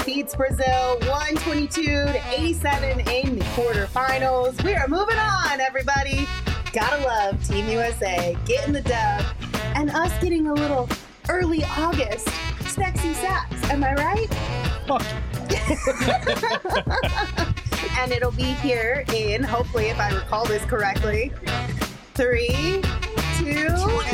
defeats Brazil 122-87 in the quarterfinals. We are moving on, everybody. Gotta love Team USA getting the dub and us getting a little early August sexy sacks. Am I right? Fuck. And it'll be here in, hopefully, if I recall this correctly, 3, 2,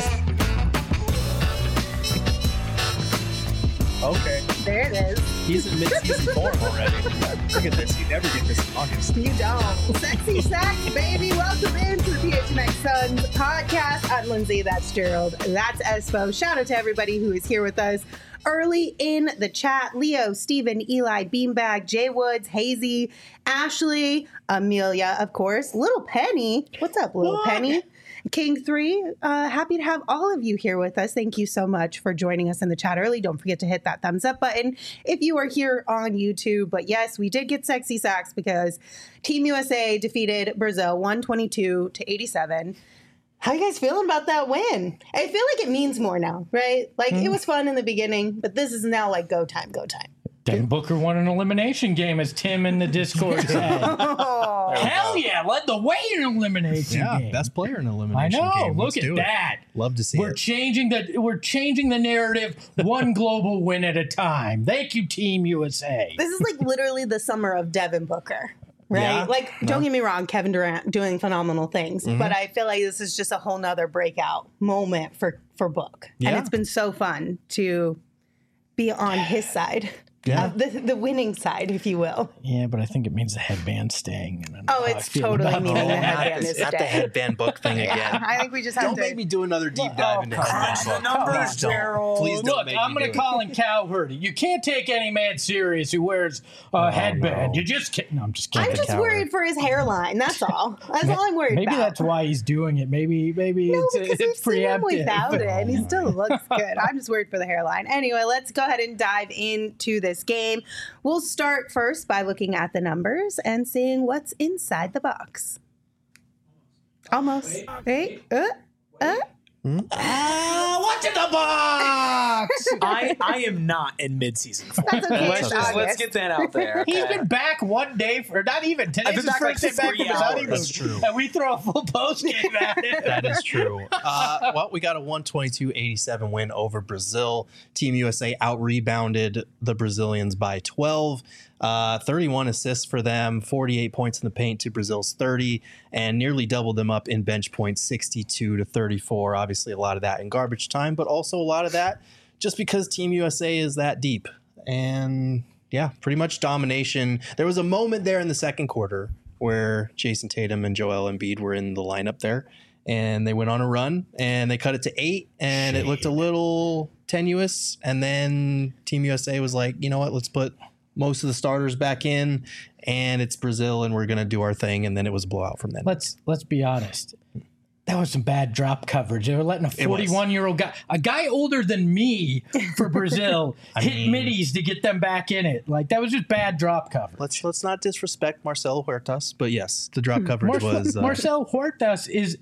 Okay. there it is. He's in mid-season form already. Look at this. You never get this in August. You don't. Sexy Sacks, baby. Welcome into the PHNX Suns podcast. I'm Lindsay. That's Gerald. That's Espo. Shout out to everybody who is here with us early in the chat. Leo, Steven, Eli, Beanbag, Jay Woods, Hazy, Ashley, Amelia, of course. Little Penny. What's up, Little Penny? King 3, happy to have all of you here with us. Thank you so much for joining us in the chat early. Don't forget to hit that thumbs up button if you are here on YouTube. But yes, we did get sexy sacks because Team USA defeated Brazil 122-87. How you guys feeling about that win? I feel like it means more now, right? Like it was fun in the beginning, but this is now like go time, go time. Devin Booker won an elimination game, as Tim in the Discord said. Hell yeah, led the way in an elimination game. Yeah, best player in I elimination know. game. Look at that. Love to see We're it. changing the narrative one global win at a time. Thank you, Team USA. This is like literally the summer of Devin Booker, right? Yeah. Like, don't get me wrong, Kevin Durant doing phenomenal things, but I feel like this is just a whole nother breakout moment for Book. Yeah. And it's been so fun to be on his side. Yeah. The winning side, if you will. Yeah, but I think it means the headband's staying. And I know Oh, how I it's feel totally about meaning the that. headband is Not the staying. headband book thing again. I think we just have Don't to. make me do another deep dive into headband book. numbers, Please don't. Gerald. Please don't Look, make I'm me going do to call in Cowherd. You can't take any man serious who wears a headband. no. You just can't. No, I'm just kidding. I'm just worried for his hairline. That's all. That's all I'm worried Maybe about. that's why he's doing it. Maybe No, it's because we've seen him preemptive. without it, and he still looks good. I'm just worried for the hairline. Anyway, let's go ahead and dive into this game. We'll start first by looking at the numbers and seeing what's inside the box. Almost. Wait. What's in the box? I am not in mid-season form. That's okay. Let's It's just August. let's get that out there. He's okay? been back one day for not even. I've Today's been his back like first day back 3 from his hours. honeymoon. That's true. And we throw a full post game at it. That is true. Well, we got a 122-87 win over Brazil. Team USA out-rebounded the Brazilians by 12. 31 assists for them, 48 points in the paint to Brazil's 30, and nearly doubled them up in bench points, 62-34. Obviously, a lot of that in garbage time, but also a lot of that just because Team USA is that deep. And yeah, pretty much domination. There was a moment there in the second quarter where Jason Tatum and Joel Embiid were in the lineup there, and they went on a run, and they cut it to 8, and it looked a little tenuous. And then Team USA was like, you know what, let's put most of the starters back in, and it's Brazil, and we're going to do our thing. And then it was a blowout from then. Let's be honest. That was some bad drop coverage. They were letting a 41-year-old guy, a guy older than me for Brazil, hit middies to get them back in it. Like, that was just bad drop coverage. Let's not disrespect Marcelo Huertas, but yes, the drop coverage was. Marcel Huertas is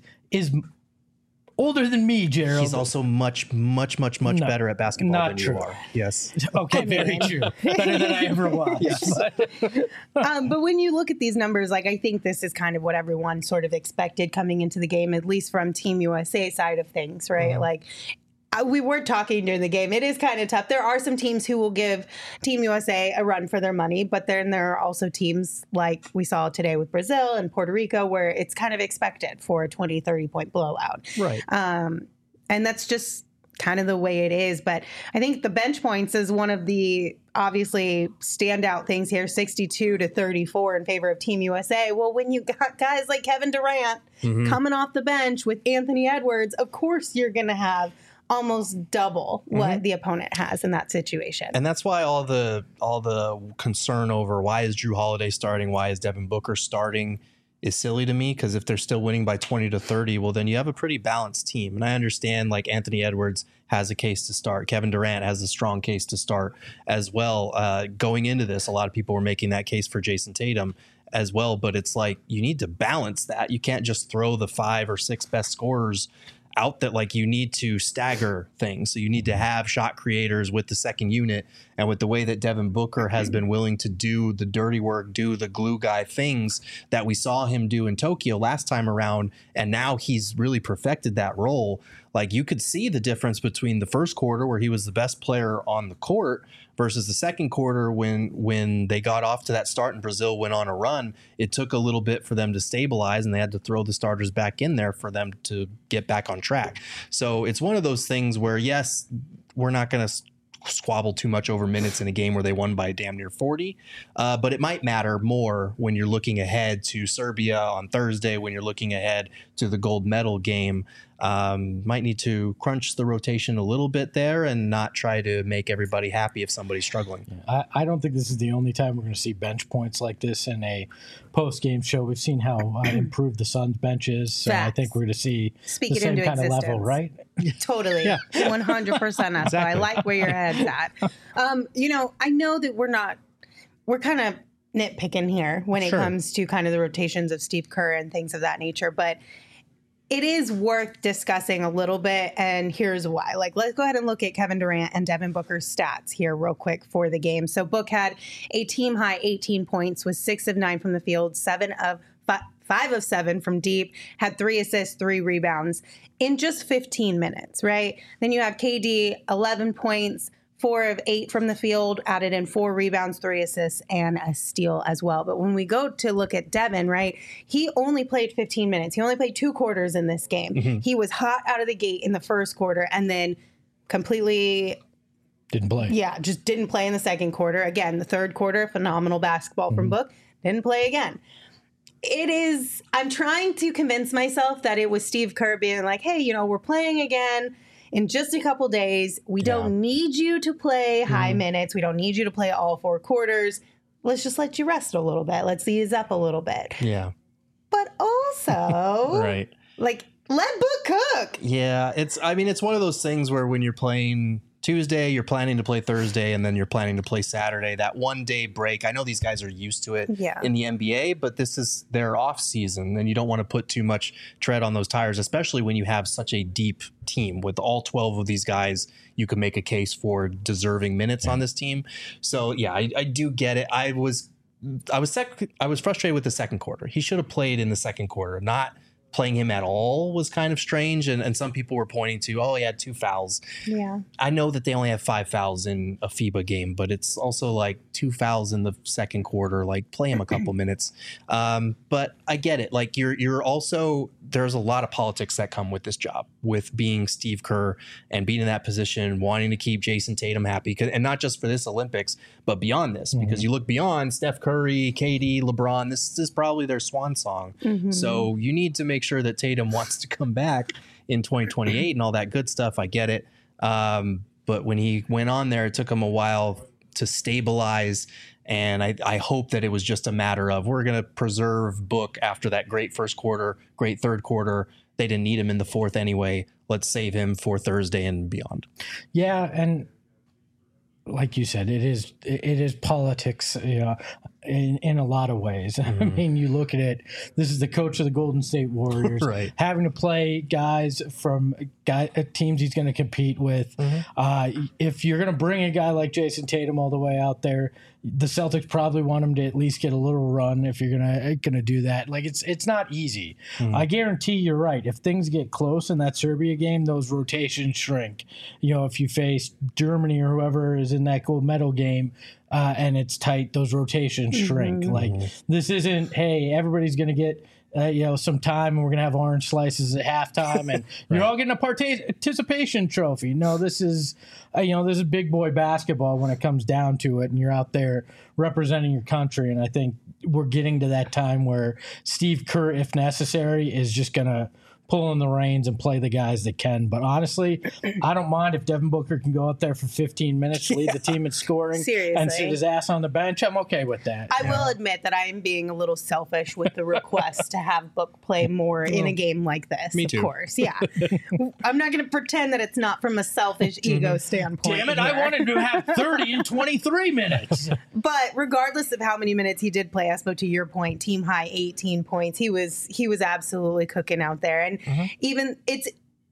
older than me, Gerald. He's also much better at basketball not than true. you are. Yes. Okay, very true. Better than I ever was. Yes. But when you look at these numbers, like, I think this is kind of what everyone sort of expected coming into the game, at least from Team USA side of things, right? Like, we were talking during the game. It is kind of tough. There are some teams who will give Team USA a run for their money, but then there are also teams like we saw today with Brazil and Puerto Rico where it's kind of expected for a 20, 30-point blowout. Right. And that's just kind of the way it is. But I think the bench points is one of the obviously standout things here, 62-34 in favor of Team USA. Well, when you got guys like Kevin Durant coming off the bench with Anthony Edwards, of course you're going to have almost double what the opponent has in that situation. And that's why all the concern over why is Drew Holiday starting, why is Devin Booker starting is silly to me, because if they're still winning by 20-30, well, then you have a pretty balanced team. And I understand, like, Anthony Edwards has a case to start. Kevin Durant has a strong case to start as well. Going into this, a lot of people were making that case for Jason Tatum as well. But it's like, you need to balance that. You can't just throw the 5 or 6 best scorers out that like you need to stagger things. So you need to have shot creators with the second unit, and with the way that Devin Booker has been willing to do the dirty work, do the glue guy things that we saw him do in Tokyo last time around, and now he's really perfected that role. Like you could see the difference between the first quarter where he was the best player on the court versus the second quarter when they got off to that start and Brazil went on a run. It took a little bit for them to stabilize, and they had to throw the starters back in there for them to get back on track. So it's one of those things where, yes, we're not going to squabble too much over minutes in a game where they won by damn near 40. But it might matter more when you're looking ahead to Serbia on Thursday, when you're looking ahead to the gold medal game. Might need to crunch the rotation a little bit there and not try to make everybody happy if somebody's struggling. I don't think this is the only time we're going to see bench points like this in a post-game show. We've seen how improved the Suns bench is, so I think we're going to see the same kind of level, right? Totally. Yeah. 100%. Exactly. I like where your head's at. I know that we're kind of nitpicking here when it comes to kind of the rotations of Steve Kerr and things of that nature, but it is worth discussing a little bit, and here's why. Like, let's go ahead and look at Kevin Durant and Devin Booker's stats here real quick for the game. So Book had a team-high 18 points, was 6 of 9 from the field, 5 of 7 from deep, had 3 assists, 3 rebounds in just 15 minutes, right? Then you have KD, 11 points, 4 of 8 from the field, added in 4 rebounds, 3 assists, and a steal as well. But when we go to look at Devin, right, he only played 15 minutes. He only played 2 quarters in this game. Mm-hmm. He was hot out of the gate in the first quarter and then completely didn't play. Yeah, just didn't play in the second quarter. Again, the third quarter, phenomenal basketball from Book, didn't play again. I'm trying to convince myself that it was Steve Kerr being like, hey, we're playing again in just a couple days. We don't need you to play high minutes. We don't need you to play all 4 quarters. Let's just let you rest a little bit. Let's ease up a little bit. Yeah. But also, right. Like, let Book cook. Yeah. It's one of those things where when you're playing Tuesday, you're planning to play Thursday, and then you're planning to play Saturday. That 1 day break, I know these guys are used to it in the NBA, but this is their off season, and you don't want to put too much tread on those tires, especially when you have such a deep team. With all 12 of these guys, you can make a case for deserving minutes on this team. So yeah, I do get it. I was frustrated with the second quarter. He should have played in the second quarter. Not playing him at all was kind of strange, and some people were pointing to, he had 2 fouls. Yeah, I know that they only have 5 fouls in a FIBA game, but it's also like 2 fouls in the second quarter. Like, play him a couple minutes. But I get it. Like, you're also, there's a lot of politics that come with this job, with being Steve Kerr and being in that position, wanting to keep Jason Tatum happy, and not just for this Olympics, but beyond this, because you look beyond Steph Curry, KD, LeBron. This is probably their swan song. So you need to make sure that Tatum wants to come back in 2028 and all that good stuff. I get it. But when he went on there, it took him a while to stabilize. And I hope that it was just a matter of, we're going to preserve Book after that great first quarter, great third quarter. They didn't need him in the fourth anyway. Let's save him for Thursday and beyond. Yeah. And like you said, it is politics, in a lot of ways. I mean, you look at it, this is the coach of the Golden State Warriors, right, having to play guys from teams he's going to compete with. If you're going to bring a guy like Jason Tatum all the way out there, the Celtics probably want him to at least get a little run if you're gonna do that. Like, it's not easy. I guarantee you're right. If things get close in that Serbia game, those rotations shrink. If you face Germany or whoever is in that gold medal game, and it's tight, those rotations shrink. Like, this isn't, hey, everybody's gonna get some time, and we're gonna have orange slices at halftime, and you're all getting a participation trophy. No, this is big boy basketball when it comes down to it, and you're out there representing your country. And I think we're getting to that time where Steve Kerr, if necessary, is just gonna pull in the reins and play the guys that can. But honestly, I don't mind if Devin Booker can go out there for 15 minutes, lead the team in scoring, and sit his ass on the bench. I'm okay with that. I will admit that I am being a little selfish with the request to have Book play more in a game like this. Me too. Of course, yeah. I'm not going to pretend that it's not from a selfish ego standpoint. Damn it, here. I wanted to have 30 in 23 minutes. But regardless of how many minutes he did play, Espo, to your point, team high 18 points. He was absolutely cooking out there. And even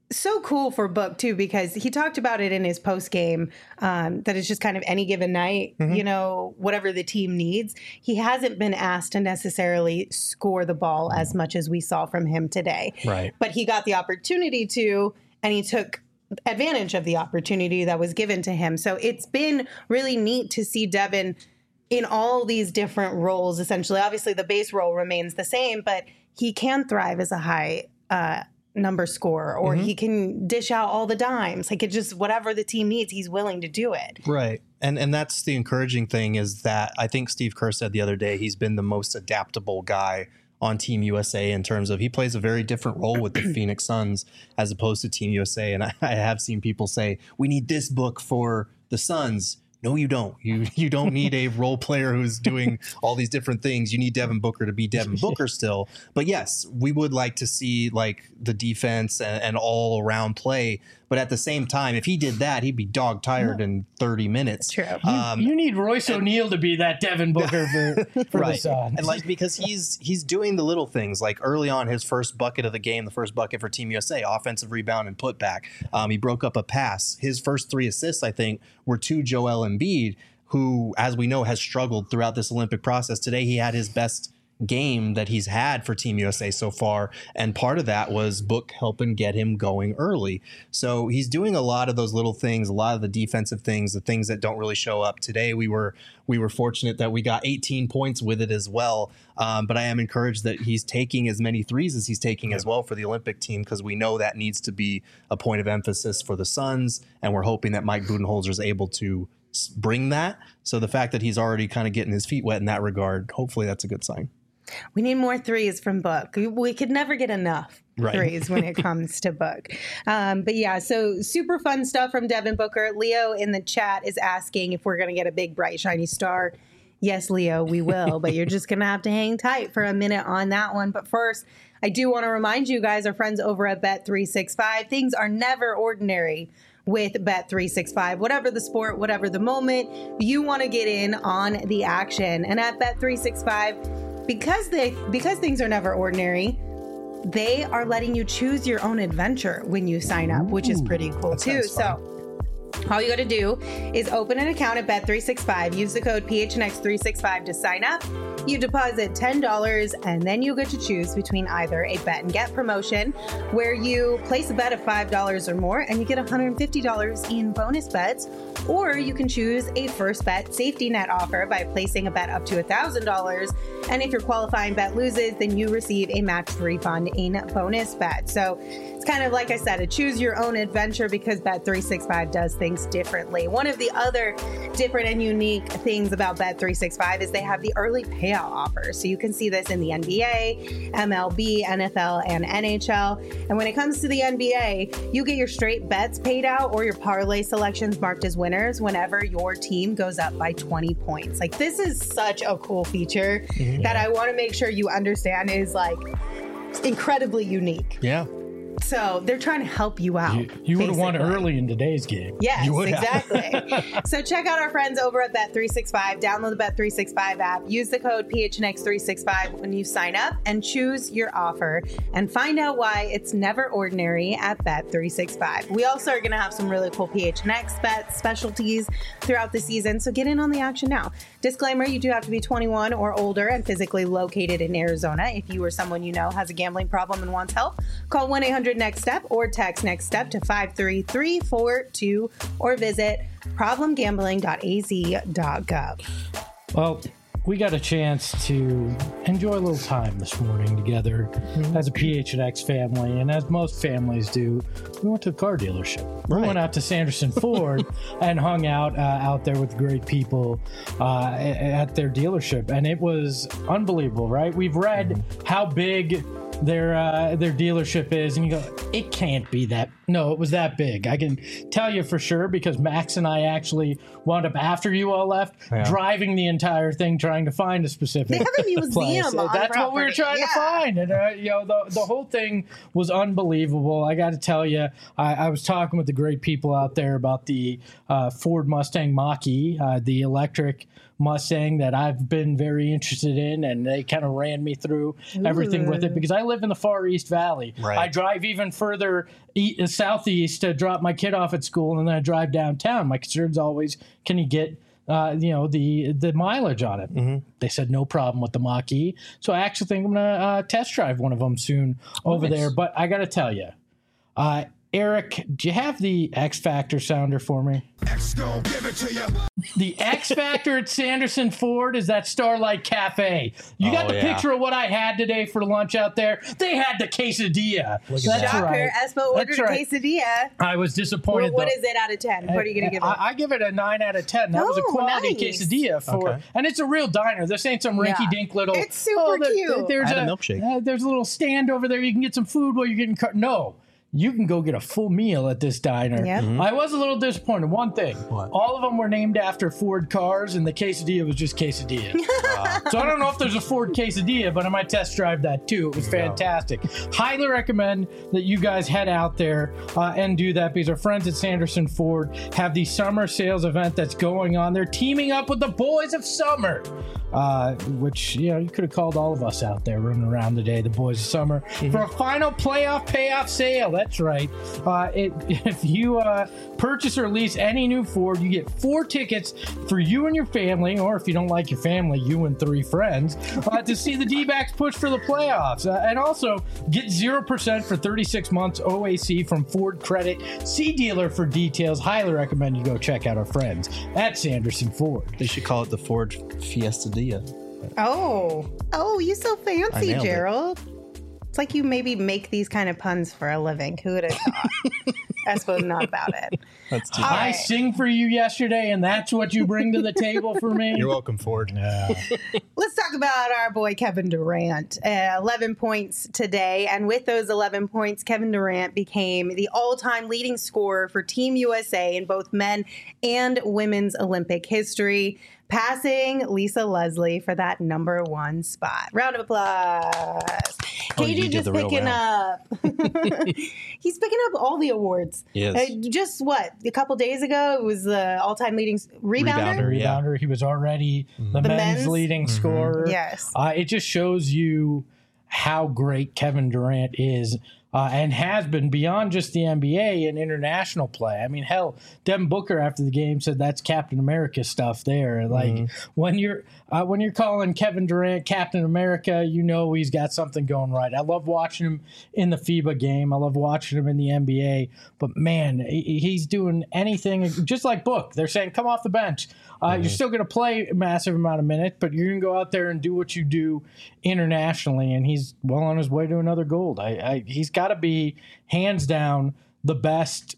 so cool for Book too, because he talked about it in his post game, that it's just kind of any given night, you know, whatever the team needs. He hasn't been asked to necessarily score the ball as much as we saw from him today. Right. But he got the opportunity to, and he took advantage of the opportunity that was given to him. So it's been really neat to see Devin in all these different roles, essentially. Obviously, the base role remains the same, but he can thrive as a high number scorer, or he can dish out all the dimes. Like, it just, whatever the team needs, he's willing to do it. Right. And that's the encouraging thing, is that I think Steve Kerr said the other day he's been the most adaptable guy on Team USA, in terms of he plays a very different role with the Phoenix Suns as opposed to Team USA. And I have seen people say, we need this Book for the Suns. No, you don't. You don't need a role player who's doing all these different things. You need Devin Booker to be Devin Booker still. But yes, we would like to see like the defense and all around play. But at the same time, if he did that, he'd be dog tired in 30 minutes. True. You need Royce O'Neal to be that Devin Booker for the Suns. And like, because he's doing the little things, like early on, his first bucket of the game, the first bucket for Team USA, offensive rebound and putback. He broke up a pass. His first 3 assists, I think, were to Joel Embiid, who, as we know, has struggled throughout this Olympic process. Today, he had his best game that he's had for Team USA so far, and part of that was Book helping get him going early. So he's doing a lot of those little things, a lot of the defensive things, the things that don't really show up. Today we were fortunate that we got 18 points with it as well, but I am encouraged that he's taking as many threes as he's taking as well for the Olympic team, because we know that needs to be a point of emphasis for the Suns, and we're hoping that Mike Budenholzer is able to bring that. So the fact that he's already kind of getting his feet wet in that regard, hopefully that's a good sign. We need more threes from Book. We could never get enough threes when it comes to Book. But yeah, so super fun stuff from Devin Booker. Leo in the chat is asking if we're going to get a big, bright, shiny star. Yes, Leo, we will. But you're just going to have to hang tight for a minute on that one. But first, I do want to remind you guys, our friends over at Bet365, things are never ordinary with Bet365. Whatever the sport, whatever the moment, you want to get in on the action. And at Bet365, because things are never ordinary, they are letting you choose your own adventure when you sign up, which is pretty cool too. So all you got to do is open an account at Bet365, use the code PHNX365 to sign up. You deposit $10, and then you get to choose between either a bet and get promotion, where you place a bet of $5 or more and you get $150 in bonus bets, or you can choose a first bet safety net offer by placing a bet up to $1,000. And if your qualifying bet loses, then you receive a matched refund in bonus bet. So it's kind of, like I said, a choose your own adventure, because Bet365 does things differently. One of the other different and unique things about Bet365 is they have the early payout offer. So you can see this in the NBA, MLB, NFL, and NHL. And when it comes to the NBA, you get your straight bets paid out or your parlay selections marked as winners whenever your team goes up by 20 points. Like, this is such a cool feature that I want to make sure you understand is like incredibly unique. Yeah. So they're trying to help you out. You would have won early in today's game. Yes, exactly. So check out our friends over at Bet365. Download the Bet365 app. Use the code PHNX365 when you sign up and choose your offer. And find out why it's never ordinary at Bet365. We also are going to have some really cool PHNX bet specialties throughout the season. So get in on the action now. Disclaimer, you do have to be 21 or older and physically located in Arizona. If you or someone you know has a gambling problem and wants help, call 1-800-NEXT-STEP or text NEXT STEP to 53342 or visit problemgambling.az.gov. Well, we got a chance to enjoy a little time this morning together as a PHNX family, and as most families do, we went to the car dealership. We went out to Sanderson Ford and hung out there with great people at their dealership, and it was unbelievable, right? We've read how big their dealership is, and you go, it can't be that. No, it was that big. I can tell you for sure, because Max and I actually wound up, after you all left, driving the entire thing trying to find a specific They have a museum place. on That's property. what we were trying to find, and the whole thing was unbelievable. I got to tell you, I was talking with the great people out there about the Ford Mustang Mach-E, the electric Mustang that I've been very interested in, and they kind of ran me through everything with it, because I live in the Far East Valley. Right. I drive even further southeast to drop my kid off at school, and then I drive downtown. My concern's always, can you get the mileage on it? Mm-hmm. They said no problem with the Mach-E. So I actually think I'm going to test drive one of them soon over there. But I got to tell you, Eric, do you have the X Factor sounder for me? X gon' give it to you. The X Factor at Sanderson Ford is that Starlight Cafe. You got the picture of what I had today for lunch out there. They had the quesadilla. That's right. Espo ordered a quesadilla. I was disappointed. What is it out of 10? What are you going to give it? I give it a 9 out of 10. That was a quality quesadilla and it's a real diner. This ain't some rinky-dink little. It's super cute. There's a milkshake. There's a little stand over there. You can get some food while you're getting no. You can go get a full meal at this diner. Yep. Mm-hmm. I was a little disappointed. One thing, all of them were named after Ford cars, and the quesadilla was just quesadilla. So I don't know if there's a Ford quesadilla, but I might test drive that too. It was fantastic. Highly recommend that you guys head out there and do that, because our friends at Sanderson Ford have the summer sales event that's going on. They're teaming up with the Boys of Summer, which you could have called all of us out there running around today, the Boys of Summer, for a final playoff payoff sale. That's right. If you purchase or lease any new Ford, you get 4 tickets for you and your family, or if you don't like your family, you and 3 friends, to see the D-backs push for the playoffs. And also get 0% for 36 months OAC from Ford Credit. See dealer for details. Highly recommend you go check out our friends at Sanderson Ford. They should call it the Ford Fiestadilla. Oh, you so fancy, Gerald. It's like you maybe make these kind of puns for a living. Who would have thought? Espo's not about it. That's too I sing for you yesterday, and that's what you bring to the table for me? You're welcome, Ford. Let's talk about our boy Kevin Durant. 11 points today, and with those 11 points, Kevin Durant became the all-time leading scorer for Team USA in both men and women's Olympic history, passing Lisa Leslie for that number 1 spot. Round of applause. KD just picking up. He's picking up all the awards. Yes. Just a couple days ago, it was the all-time leading rebounder. Rebounder. He was already the men's leading scorer. Yes. It just shows you how great Kevin Durant is. And has been beyond just the NBA and international play. I mean, hell, Devin Booker after the game said that's Captain America stuff there. Like when you're calling Kevin Durant Captain America, he's got something going right. I love watching him in the FIBA game. I love watching him in the NBA. But man, he's doing anything just like Book. They're saying, come off the bench. You're still going to play a massive amount of minutes, but you're going to go out there and do what you do internationally. And he's well on his way to another gold. He's got to be hands down the best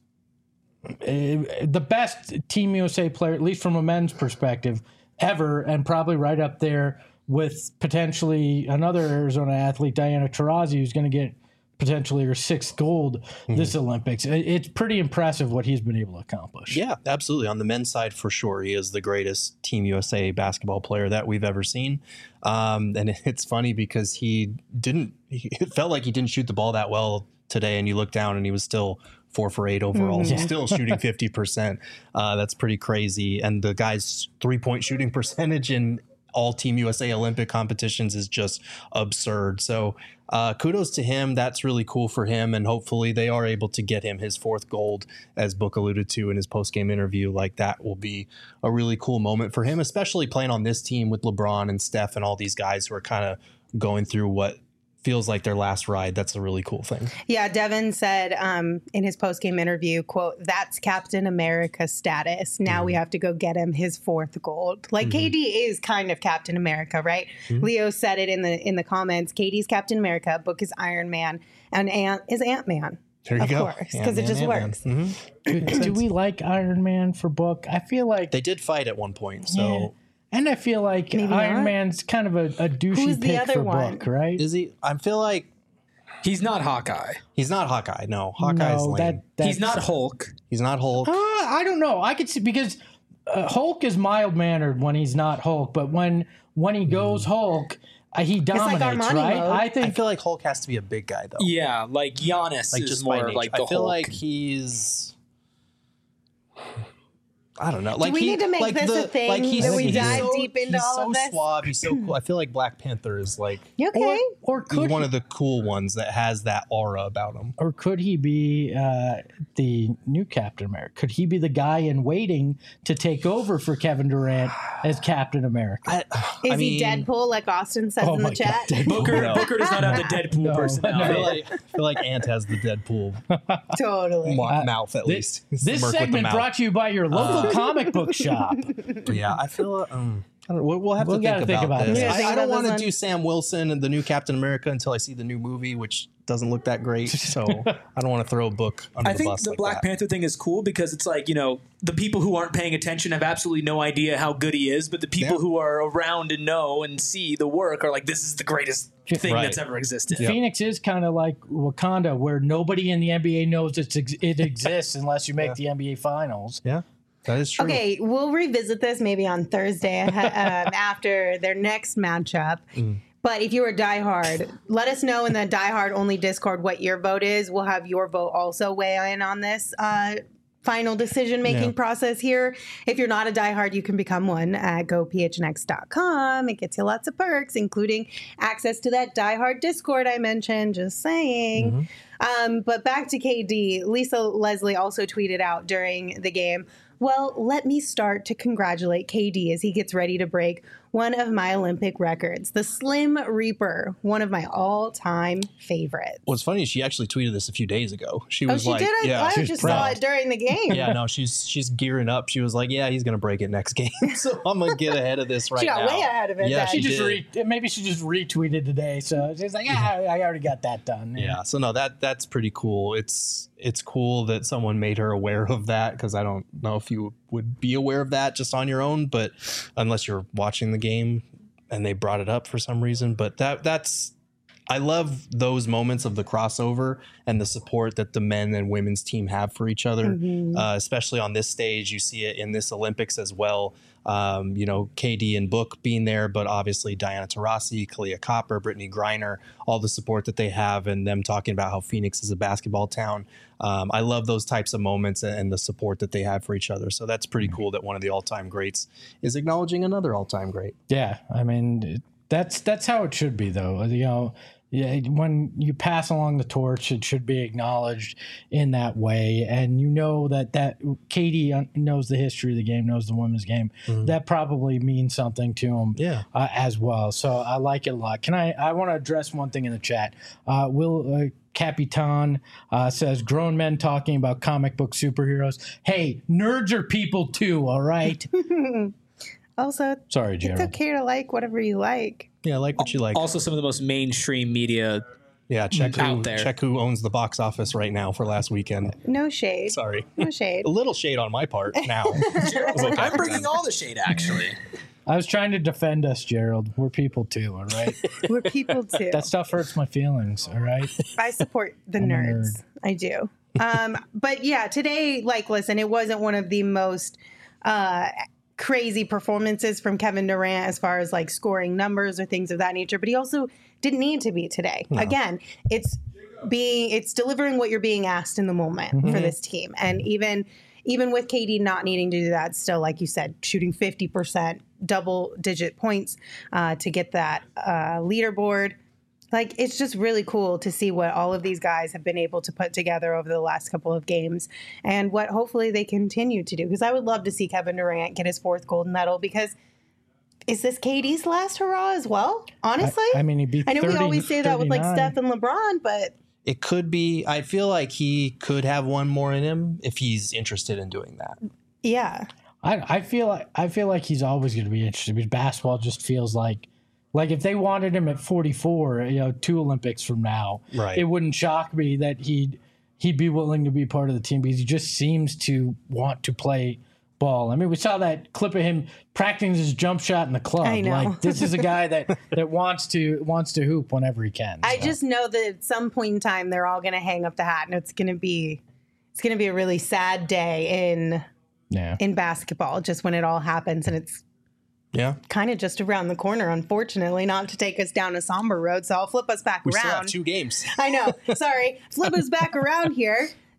Team USA player, at least from a men's perspective, ever, and probably right up there with potentially another Arizona athlete, Diana Taurasi, who's going to get potentially her 6th gold this Olympics. It's pretty impressive what he's been able to accomplish. Yeah, absolutely. On the men's side, for sure, he is the greatest Team USA basketball player that we've ever seen. And it's funny because it felt like he didn't shoot the ball that well today, and you look down and he was still 4 for 8 overall. So still shooting 50%. That's pretty crazy. And the guy's 3-point shooting percentage in all Team USA Olympic competitions is just absurd. So kudos to him. That's really cool for him. And hopefully they are able to get him his 4th gold, as Book alluded to in his post-game interview. Like, that will be a really cool moment for him, especially playing on this team with LeBron and Steph and all these guys who are kind of going through what feels like their last ride. That's a really cool thing. Yeah, Devin said in his post-game interview, quote, "That's Captain America status. Now we have to go get him his 4th gold." Like, KD is kind of Captain America, right? Leo said it in the comments. KD's Captain America, Book is Iron Man, and Ant is Ant-Man. There you go. Of course, because it just works. Do we like Iron Man for Book? I feel like they did fight at one point, so... Yeah. And I feel like Maybe Iron not. Man's kind of a douchey Who's the pick other for one? Book, right? Is he? I feel like He's not Hawkeye. he's not Hawkeye. No, Hawkeye's lame. He's not Hulk. He's not Hulk. I don't know. I could see, because Hulk is mild mannered when he's not Hulk, but when he goes Hulk, he dominates, Armani right? mode. I feel like Hulk has to be a big guy, though. Yeah, like Giannis Like, is just by more nature. like the I feel Hulk. like he's... I don't know. Do we need to make this a thing that we dive deep into all of this? He's so suave. He's so cool. I feel like Black Panther is like Okay. Or he's could one of the cool ones that has that aura about him. Or could he be the new Captain America? Could he be the guy in waiting to take over for Kevin Durant as Captain America? Is he Deadpool, like Austin says in the chat? Booker does not have the Deadpool personality. I feel like Ant has the Deadpool Totally. mouth at least. It's the This Merc with the segment mouth. brought to you by your local comic book shop. But yeah, I feel. I don't know, we'll have to gotta think about this. it. Yeah, think I don't about want this to one. do Sam Wilson and the new Captain America until I see the new movie, which doesn't look that great. So I don't want to throw a book under I the think bus. the like Black that. Panther thing is cool because it's like, the people who aren't paying attention have absolutely no idea how good he is, but the people who are around and know and see the work are like, this is the greatest thing Right. that's ever existed. Phoenix is kind of like Wakanda, where nobody in the NBA knows it exists unless you make the NBA Finals. Yeah, that is true. Okay, we'll revisit this maybe on Thursday after their next matchup. But if you're a diehard, let us know in the diehard only Discord what your vote is. We'll have your vote also weigh in on this final decision-making process here. If you're not a diehard, you can become one at gophnx.com. It gets you lots of perks, including access to that diehard Discord I mentioned, just saying. But back to KD, Lisa Leslie also tweeted out during the game, well, let me start to congratulate KD as he gets ready to break one of my Olympic records, the Slim Reaper, one of my all-time favorites. What's funny is she actually tweeted this a few days ago. She was she like, did? yeah, I just saw it during the game. Yeah, no, she's gearing up. She was like, yeah, he's gonna break it next game, so I'm gonna get ahead of this right She got now. way ahead of it Yeah, then. she She just did. maybe she just retweeted today, so she's like, I already got that done. Yeah, so no, that's pretty cool. It's cool that someone made her aware of that, because I don't know if you would be aware of that just on your own, but unless you're watching the game and they brought it up for some reason. But that's I love those moments of the crossover and the support that the men and women's team have for each other, especially on this stage. You see it in this Olympics as well. KD and Book being there, but obviously Diana Taurasi, Kalia Copper, Brittany Griner, all the support that they have, and them talking about how Phoenix is a basketball town. I love those types of moments and the support that they have for each other. So that's pretty cool that one of the all-time greats is acknowledging another all-time great. Yeah, I mean that's how it should be, though. Yeah, when you pass along the torch, it should be acknowledged in that way. And that Katie knows the history of the game, knows the women's game. That probably means something to him as well. So I like it a lot. I want to address one thing in the chat. Will Capitan says, grown men talking about comic book superheroes. Hey, nerds are people too, all right? Also, Sorry, Gerald. it's okay to like whatever you like. Yeah, like what you like. Also, some of the most mainstream media. Yeah, check out there. who owns the box office right now for last weekend. No shade. Sorry. No shade. A little shade on my part now. I'm bringing all the shade, actually. I was trying to defend us, Gerald. We're people too, all right? We're people too. That stuff hurts my feelings, all right? I support the nerds. I do. But yeah, today, listen, it wasn't one of the most crazy performances from Kevin Durant as far as scoring numbers or things of that nature, but he also didn't need to be today. No. Again, it's delivering what you're being asked in the moment for this team. And even with KD not needing to do that, still, like you said, shooting 50%, double-digit points to get that leaderboard. It's just really cool to see what all of these guys have been able to put together over the last couple of games and what hopefully they continue to do. Because I would love to see Kevin Durant get his 4th gold medal, because is this KD's last hurrah as well? Honestly? I mean, he beat I know 30, we always say that with 39. Steph and LeBron, but It could be. I feel like he could have one more in him if he's interested in doing that. yeah. I feel like he's always going to be interested, because basketball just feels like if they wanted him at 44, 2 Olympics from now, Right. it wouldn't shock me that he'd be willing to be part of the team, because he just seems to want to play ball. I mean, we saw that clip of him practicing his jump shot in the club. I know. This is a guy that wants to hoop whenever he can. I so. just know that at some point in time they're all going to hang up the hat, and it's going to be a really sad day in basketball, just when it all happens, and it's kind of just around the corner, unfortunately, not to take us down a somber road. So I'll flip us back We around. still have 2 games. I know. Sorry. Flip us back around here.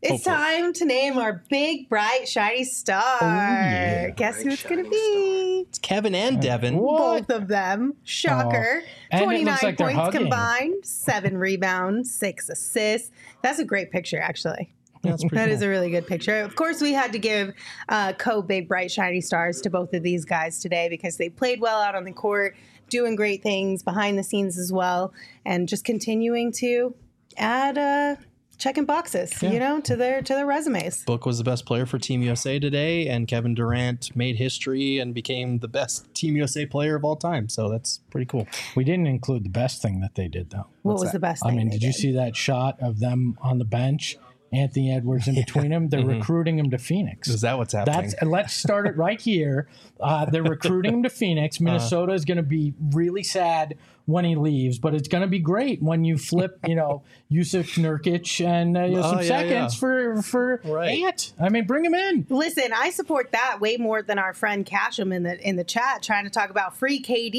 It's time to name our big, bright, shiny star. yeah. Guess who it's going to be? It's Kevin and Devin. Both of them. Shocker. And it 29 looks like they're points hugging. combined, 7 rebounds, 6 assists. That's a great picture, actually. That's pretty That cool. is a really good picture. Of course, we had to give big, bright, shiny stars to both of these guys today because they played well out on the court, doing great things behind the scenes as well, and just continuing to add checking boxes, to their resumes. Book was the best player for Team USA today, and Kevin Durant made history and became the best Team USA player of all time. So that's pretty cool. We didn't include the best thing that they did, though. What was the best thing? Did you see that shot of them on the bench? Anthony Edwards in between them. They're recruiting him to Phoenix. Is that what's happening? Let's start it right here. They're recruiting him to Phoenix. Minnesota is going to be really sad when he leaves, but it's going to be great when you flip, Yusuf Nurkic and some seconds for Ant. I mean, bring him in. Listen, I support that way more than our friend Casham in the chat trying to talk about free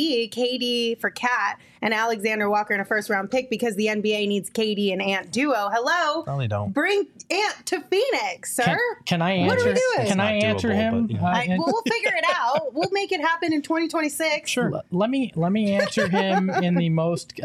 KD for Cat and Alexander Walker in a first round pick because the NBA needs KD and Ant duo. Hello, Probably don't. Bring Ant to Phoenix, sir. Can I answer? What are we doing? Can I It's not answer doable, him? but, We'll figure it out. We'll make it happen in 2026. Sure. Let me answer him in the most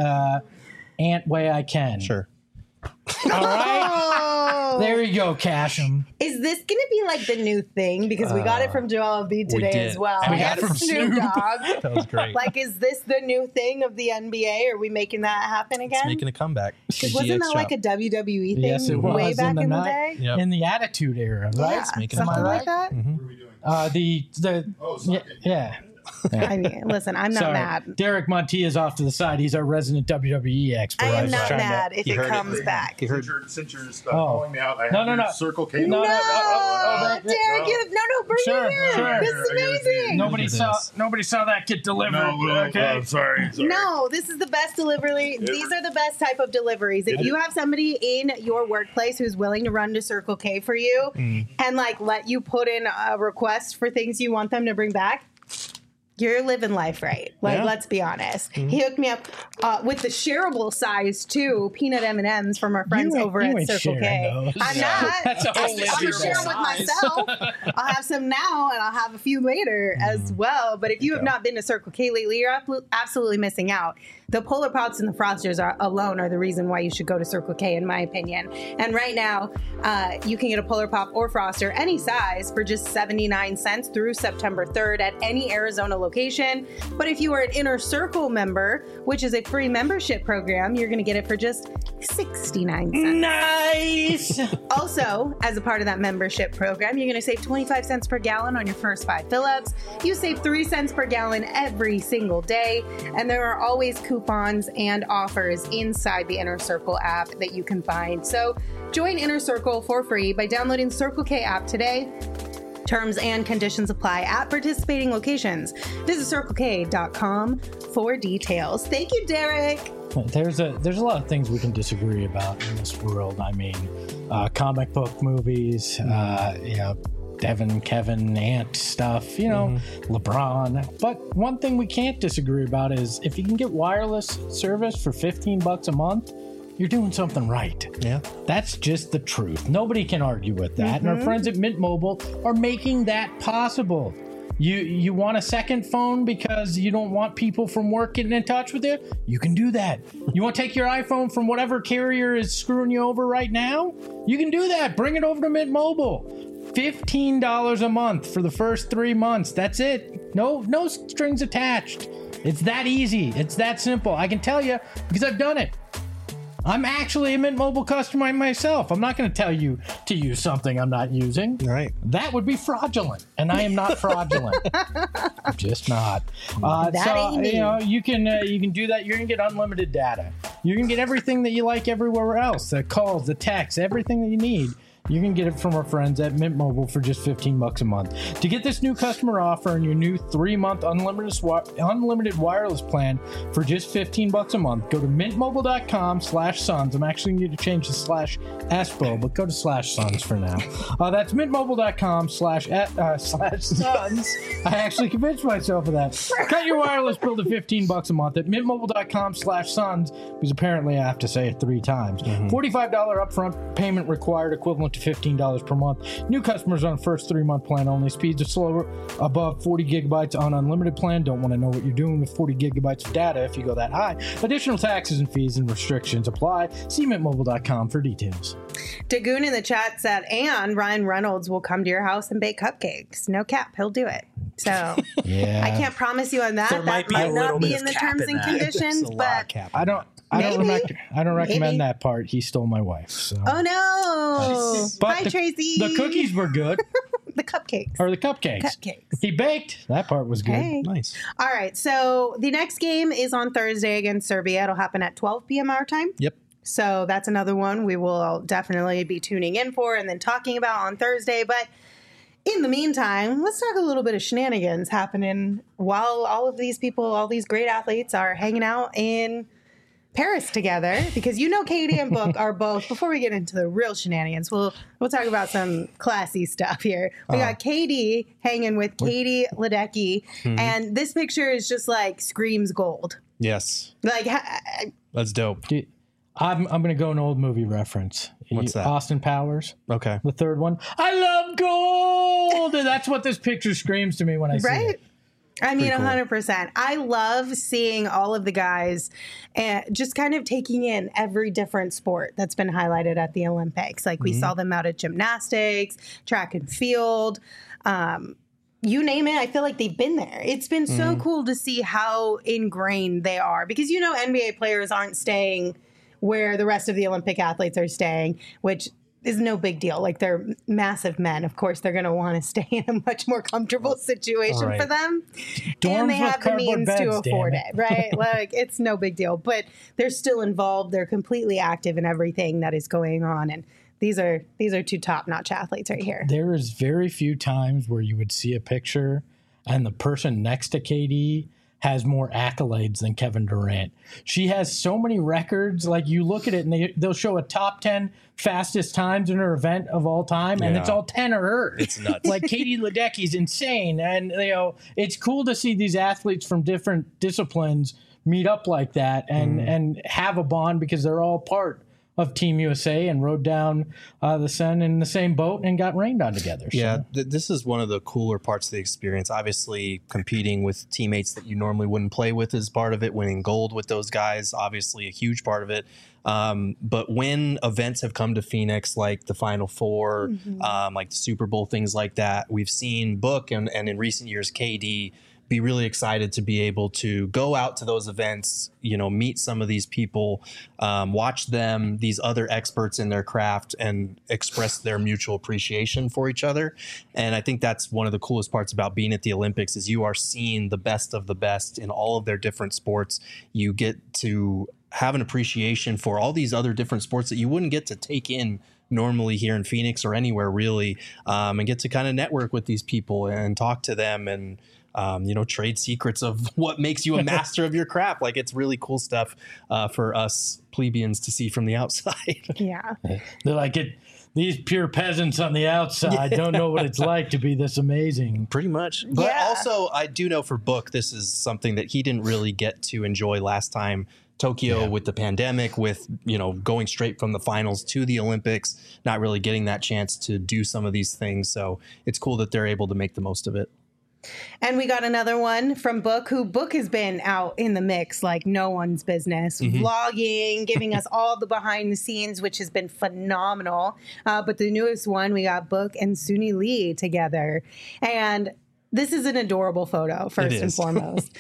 Ant way I can. Sure. All right. Oh. There you go, Casham. Is this going to be like the new thing? Because we got it from Joel Embiid today did. as well. And we got it from Snoop. Dogg. That was great. Like, is this the new thing of the NBA? Are we making that happen again? It's making a comeback. Because wasn't that like a WWE thing Yes, it was way back in the night- day? Yep. in the Attitude Era, right? Yeah, making a something like comeback. that. What are we doing? Yeah. I mean, listen, I'm not Sorry. mad. Derek Montia's off to the side. He's our resident WWE expert. I am was not trying to- mad if You it heard it. comes back. Since you're Oh. calling me out, I have No. your Circle K. No, No, that- Derek, bring Sure, it here. sure. This is amazing. Nobody Look at saw. this. Nobody saw that get delivered. Okay. Sorry. No, this is the best delivery. These are the best type of deliveries. If you have somebody in your workplace who's willing to run to Circle K for you and like let you put in a request for things you want them to bring back, you're living life right. Like, Yeah. let's be honest. He hooked me up with the shareable size too, peanut M&Ms from our friends You ain't- over you at ain't Circle sharing K. those. I'm not. That's a whole I'm living sharing with size. myself. I'll have some now and I'll have a few later as well. But if you have not been to Circle K lately, you're absolutely missing out. The Polar Pops and the Frosters alone are the reason why you should go to Circle K, in my opinion. And right now, you can get a Polar Pop or Froster, any size, for just 79 cents through September 3rd at any Arizona location. But if you are an Inner Circle member, which is a free membership program, you're going to get it for just 69 cents. Nice. Also, as a part of that membership program, you're going to save 25 cents per gallon on your first 5 fill-ups. You save 3 cents per gallon every single day. And there are always coupons and offers inside the Inner Circle app that you can find. So join Inner Circle for free by downloading the Circle K app today. Terms and conditions apply at participating locations. Visit CircleK.com for details. Thank you, Derek. There's a lot of things we can disagree about in this world. I mean, comic book movies, Devin, Kevin, Ant stuff, LeBron. But one thing we can't disagree about is if you can get wireless service for $15 a month, you're doing something right. Yeah. That's just the truth. Nobody can argue with that. And our friends at Mint Mobile are making that possible. You want a second phone because you don't want people from work getting in touch with you? You can do that. You want to take your iPhone from whatever carrier is screwing you over right now? You can do that. Bring it over to Mint Mobile. $15 a month for the first 3 months. That's it. No strings attached. It's that easy. It's that simple. I can tell you because I've done it. I'm actually a Mint Mobile customer myself. I'm not going to tell you to use something I'm not using. Right. That would be fraudulent, and I am not fraudulent. I'm just not. ain't me. You can do that. You're going to get unlimited data. You're going to get everything that you like everywhere else. The calls, the texts, everything that you need. You can get it from our friends at Mint Mobile for just $15 a month. To get this new customer offer and your new 3-month unlimited wireless plan for just $15 a month, go to mintmobile.com/sons. I'm actually going to change the /espo, but go to /sons for now. That's mintmobile.com/sons. I actually convinced myself of that. Cut your wireless bill to $15 a month at mintmobile.com/sons, because apparently I have to say it 3 times. $45 upfront payment required, equivalent to to $15 per month. New customers on first 3-month plan only. Speeds are slower, above 40 gigabytes on unlimited plan. Don't want to know what you're doing with 40 gigabytes of data if you go that high. Additional taxes and fees and restrictions apply. See mintmobile.com for details. Dagoon in the chat said, and Ryan Reynolds will come to your house and bake cupcakes. No cap, he'll do it. So Yeah. I can't promise you on that. There might That be a might little not be bit in of the cap terms in and that. conditions, There's a lot but of cap. I don't Maybe. recommend Maybe. that part. He stole my wife. So. oh no. But Hi, the, Tracy. The cookies were good. The cupcakes. Or the cupcakes. Cupcakes. He baked. That part was good. Hey. Nice. All right. So the next game is on Thursday against Serbia. It'll happen at 12 p.m. our time. Yep. So that's another one we will definitely be tuning in for and then talking about on Thursday. But in the meantime, let's talk a little bit of shenanigans happening while all of these people, all these great athletes are hanging out in Paris together. Because you know Katie and Book are both, before we get into the real shenanigans, we'll talk about some classy stuff here. We got Katie hanging with Katie Ledecky, and this picture is just like screams gold. Yes. Like, That's dope. Dude, I'm going to go an old movie reference. What's that? Austin Powers, Okay. the third one. I love gold. And that's what this picture screams to me when I see right? it. I mean, Pretty cool. 100%. I love seeing all of the guys just kind of taking in every different sport that's been highlighted at the Olympics. Like we saw them out at gymnastics, track and field, you name it. I feel like they've been there. It's been so cool to see how ingrained they are because, you know, NBA players aren't staying where the rest of the Olympic athletes are staying, which is no big deal. Like they're massive men. Of course, they're going to want to stay in a much more comfortable situation Right. for them. Dorms And they with have the cardboard means beds, to damn afford it. it, right? Like it's no big deal. But they're still involved. They're completely active in everything that is going on. And these are two top-notch athletes right here. There is very few times where you would see a picture and the person next to KD has more accolades than Kevin Durant. She has so many records. Like you look at it and they'll show a top 10 fastest times in her event of all time, and Yeah. it's all 10 of hers. It's nuts. Like Katie Ledecky's insane. And you know, it's cool to see these athletes from different disciplines meet up like that and have a bond because they're all part of Team USA and rode down the Seine in the same boat and got rained on together. So. Yeah, this is one of the cooler parts of the experience. Obviously, competing with teammates that you normally wouldn't play with is part of it. Winning gold with those guys, obviously a huge part of it. But when events have come to Phoenix, like the Final Four, like the Super Bowl, things like that, we've seen Book and in recent years, KD be really excited to be able to go out to those events, you know, meet some of these people, watch them, these other experts in their craft, and express their mutual appreciation for each other. And I think that's one of the coolest parts about being at the Olympics is you are seeing the best of the best in all of their different sports. You get to have an appreciation for all these other different sports that you wouldn't get to take in normally here in Phoenix or anywhere really, and get to kind of network with these people and talk to them and you know, trade secrets of what makes you a master of your craft. Like it's really cool stuff for us plebeians to see from the outside. Yeah. They're like, these pure peasants on the outside don't know what it's like to be this amazing. Pretty much. But Yeah. also, I do know for Book, this is something that he didn't really get to enjoy last time. Tokyo with the pandemic, with, you know, going straight from the finals to the Olympics, not really getting that chance to do some of these things. So it's cool that they're able to make the most of it. And we got another one from Book, who Book has been out in the mix like no one's business, vlogging, giving us all the behind the scenes, which has been phenomenal. But the newest one, we got Book and Suni Lee together. And this is an adorable photo, first and is. foremost.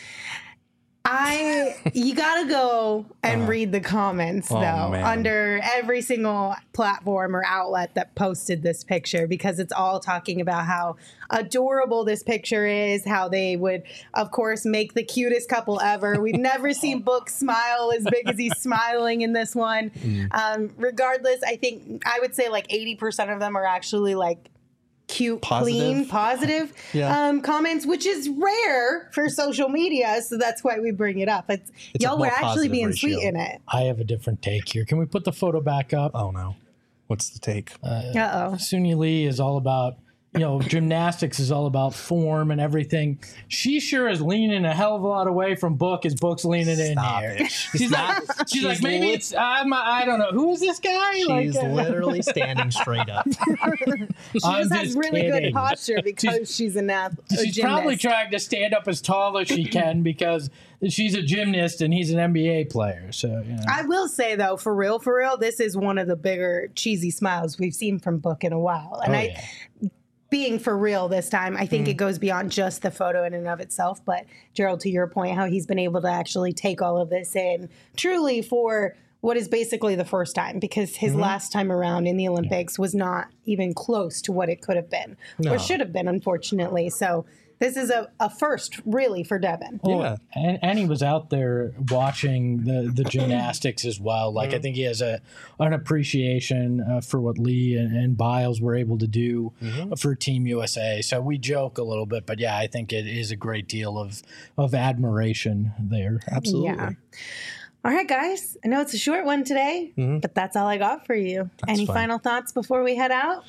You gotta go and read the comments though man. under every single platform or outlet that posted this picture, because it's all talking about how adorable this picture is, how they would of course make the cutest couple ever. We've never seen Book smile as big as he's smiling in this one. Regardless, I think I would say like 80% of them are actually like cute, clean, positive comments, which is rare for social media. So that's why we bring it up. It's y'all more were actually positive being ratio. sweet in it. I have a different take here. Can we put the photo back up? Oh no. What's the take? Uh-oh. Suni Lee is all about gymnastics is all about form and everything. She sure is leaning a hell of a lot away from Book as Book's leaning Stop in it. here. She's like, maybe it's, I don't know. Who is this guy? She's literally standing straight up. She just has really good posture because she's an athlete. She's probably trying to stand up as tall as she can because she's a gymnast and he's an NBA player. So I will say though, for real, this is one of the bigger cheesy smiles we've seen from Book in a while. And being for real this time, I think it goes beyond just the photo in and of itself. But Gerald, to your point, how he's been able to actually take all of this in truly for what is basically the first time, because his last time around in the Olympics was not even close to what it could have been or should have been, unfortunately. So this is a first, really, for Devin. Yeah. And he was out there watching the gymnastics as well. Like, I think he has an appreciation for what Lee and Biles were able to do for Team USA. So we joke a little bit, but yeah, I think it is a great deal of admiration there. Absolutely. Yeah. All right, guys. I know it's a short one today, but that's all I got for you. Any final thoughts before we head out?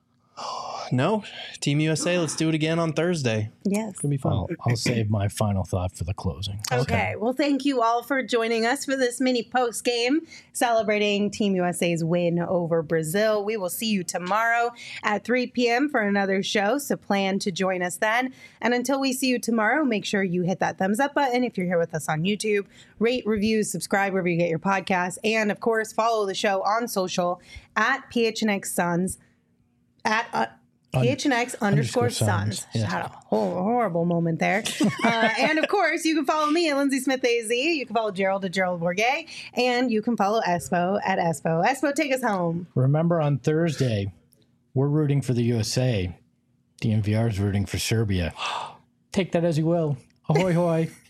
No, Team USA, let's do it again on Thursday. Yes. It's going to be fun. I'll save my final thought for the closing. Okay. Well, thank you all for joining us for this mini post game celebrating Team USA's win over Brazil. We will see you tomorrow at 3 p.m. for another show, so plan to join us then. And until we see you tomorrow, make sure you hit that thumbs up button if you're here with us on YouTube. Rate, review, subscribe wherever you get your podcasts. And, of course, follow the show on social at PHNX Suns. At PHNX _ Suns. Yeah. Had a horrible moment there. And of course, you can follow me at Lindsay Smith AZ. You can follow Gerald at Gerald Bourget. And you can follow Espo at Espo. Espo, take us home. Remember, on Thursday, we're rooting for the USA. DNVR is rooting for Serbia. Take that as you will. Ahoy, hoy.